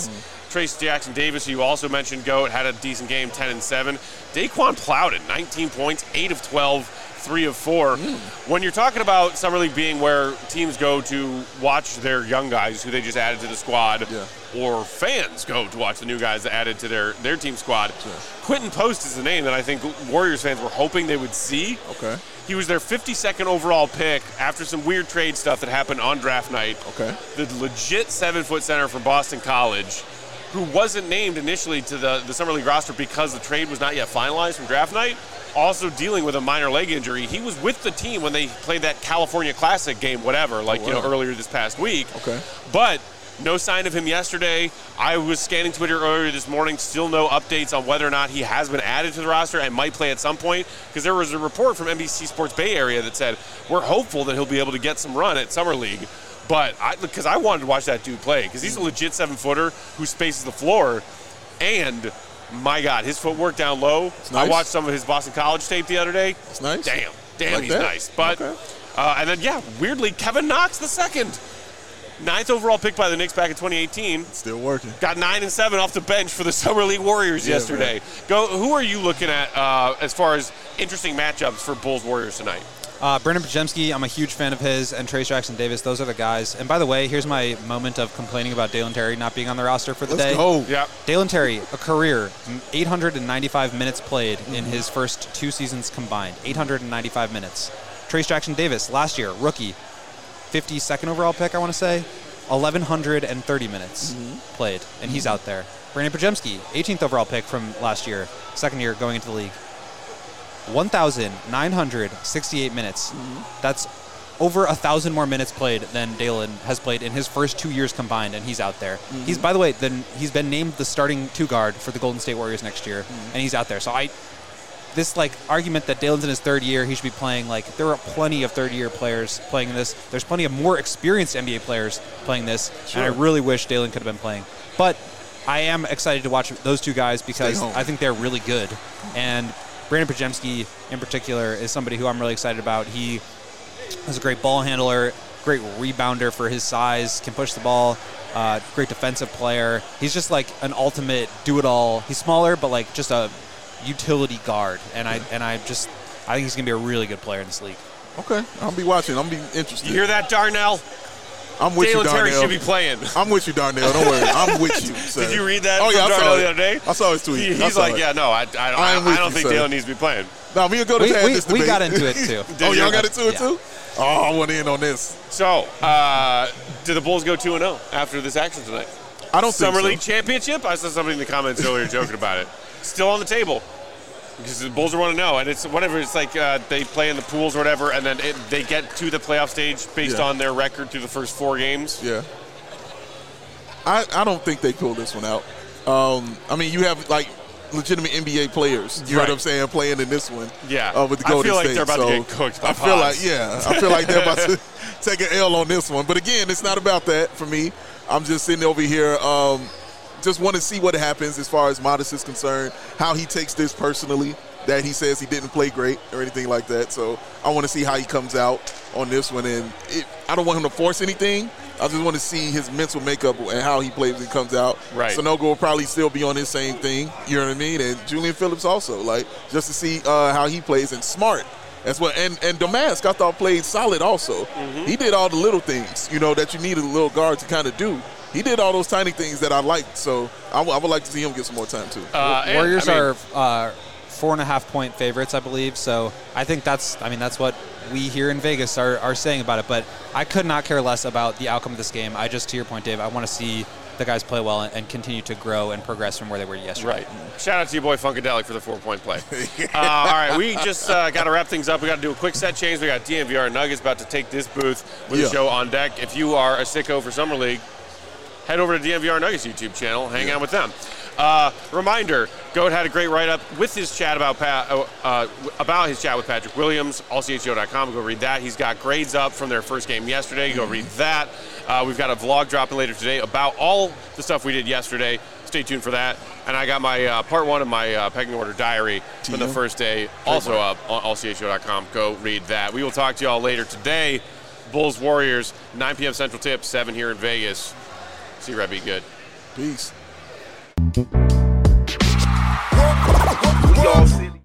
Trace Jackson Davis, who you also mentioned, GOAT, had a decent game, 10-7. Daquan Plowden, 19 points, 8 of 12, 3 of 4. When you're talking about Summer League being where teams go to watch their young guys who they just added to the squad, or fans go to watch the new guys that added to their team squad, Quentin Post is the name that I think Warriors fans were hoping they would see. Okay. He was their 52nd overall pick after some weird trade stuff that happened on draft night. Okay. The legit 7-foot center from Boston College, who wasn't named initially to the Summer League roster because the trade was not yet finalized from draft night, also dealing with a minor leg injury. He was with the team when they played that California Classic game, whatever, earlier this past week. Okay. But no sign of him yesterday. I was scanning Twitter earlier this morning, still no updates on whether or not he has been added to the roster and might play at some point, because there was a report from NBC Sports Bay Area that said, we're hopeful that he'll be able to get some run at Summer League. But because I wanted to watch that dude play, because he's a legit 7-footer who spaces the floor, and my God, his footwork down low. Nice. I watched some of his Boston College tape the other day. It's nice. Damn, like he's that. nice. But okay. And then weirdly, Kevin Knox the second. 9th overall pick by the Knicks back in 2018. Still working. Got 9 and 7 off the bench for the Summer League Warriors yesterday. Man. Who are you looking at as far as interesting matchups for Bulls Warriors tonight? Brandon Podziemski, I'm a huge fan of his, and Trace Jackson Davis. Those are the guys. And by the way, here's my moment of complaining about Dalen Terry not being on the roster for the day. Go. Yeah. Dalen Terry, a career 895 minutes played in his first 2 seasons combined. 895 minutes. Trace Jackson Davis, last year, rookie, 52nd overall pick, I want to say. 1,130 minutes played, and he's out there. Brandon Podziemski, 18th overall pick from last year, second year going into the league. 1,968 minutes. That's over 1,000 more minutes played than Dalen has played in his first 2 years combined, and he's out there. He's, by the way, he's been named the starting 2-guard for the Golden State Warriors next year, and he's out there. So this argument that Dalen's in his 3rd year, he should be playing, there are plenty of 3rd-year players playing this. There's plenty of more experienced NBA players playing this, and I really wish Dalen could have been playing. But I am excited to watch those 2 guys because I think they're really good. And Brandon Podziemski, in particular, is somebody who I'm really excited about. He is a great ball handler, great rebounder for his size, can push the ball, great defensive player. He's just an ultimate do-it-all. He's smaller, but just a utility guard, and I think he's gonna be a really good player in this league. Okay, I'll be watching. I'm be interested. You hear that, Darnell? I'm with Dalen you, Darnell. Terry should be playing. I'm with you, Darnell. Don't worry. I'm with you. Sir. Did you read that? Oh yeah, from Darnell the other day. I saw his tweet. He's like, I don't think Dalen needs to be playing. No, me and Go to this debate. We got into it too. Y'all got into it too? Oh, I want in on this. So, do the Bulls go 2-0 after this action tonight? I don't think so. Summer League championship? I saw somebody in the comments earlier joking about it. Still on the table. Because the Bulls are 1-0, and it's whatever. It's they play in the pools or whatever, and then they get to the playoff stage based on their record through the first 4 games. Yeah. I don't think they pull this one out. You have legitimate NBA players. You know what I'm saying? Playing in this one. Yeah. With the Golden State. I feel like they're about to get cooked by I feel like they're about to take an L on this one. But again, it's not about that for me. I'm just sitting over here. Just want to see what happens as far as Modest is concerned, how he takes this personally, that he says he didn't play great or anything like that. So I want to see how he comes out on this one. And I don't want him to force anything. I just want to see his mental makeup and how he plays when he comes out. Right. Sonogo will probably still be on his same thing. You know what I mean? And Julian Phillips also, just to see how he plays. And Smart as well. And Domask, I thought, played solid also. He did all the little things, that you need a little guard to kind of do. He did all those tiny things that I liked, so I would like to see him get some more time too. Warriors are 4.5-point favorites, I believe. So I think that's what we here in Vegas are saying about it. But I could not care less about the outcome of this game. To your point, Dave, I want to see the guys play well and continue to grow and progress from where they were yesterday. Right. Shout out to your boy Funkadelic for the 4-point play. All right, we just got to wrap things up. We got to do a quick set change. We got DNVR Nuggets about to take this booth with the show on deck. If you are a sicko for Summer League, head over to DNVR Nuggets YouTube channel, hang out with them. Reminder, Goat had a great write-up with his chat about his chat with Patrick Williams, allcho.com. Go read that. He's got grades up from their first game yesterday. Go read that. We've got a vlog dropping later today about all the stuff we did yesterday. Stay tuned for that. And I got my part 1 of my pecking order diary from the first day also up on allcho.com. Go read that. We will talk to you all later today. Bulls Warriors, 9 p.m. Central Tip, 7 here in Vegas. See you, Red. Be good. Peace. Y'all silly.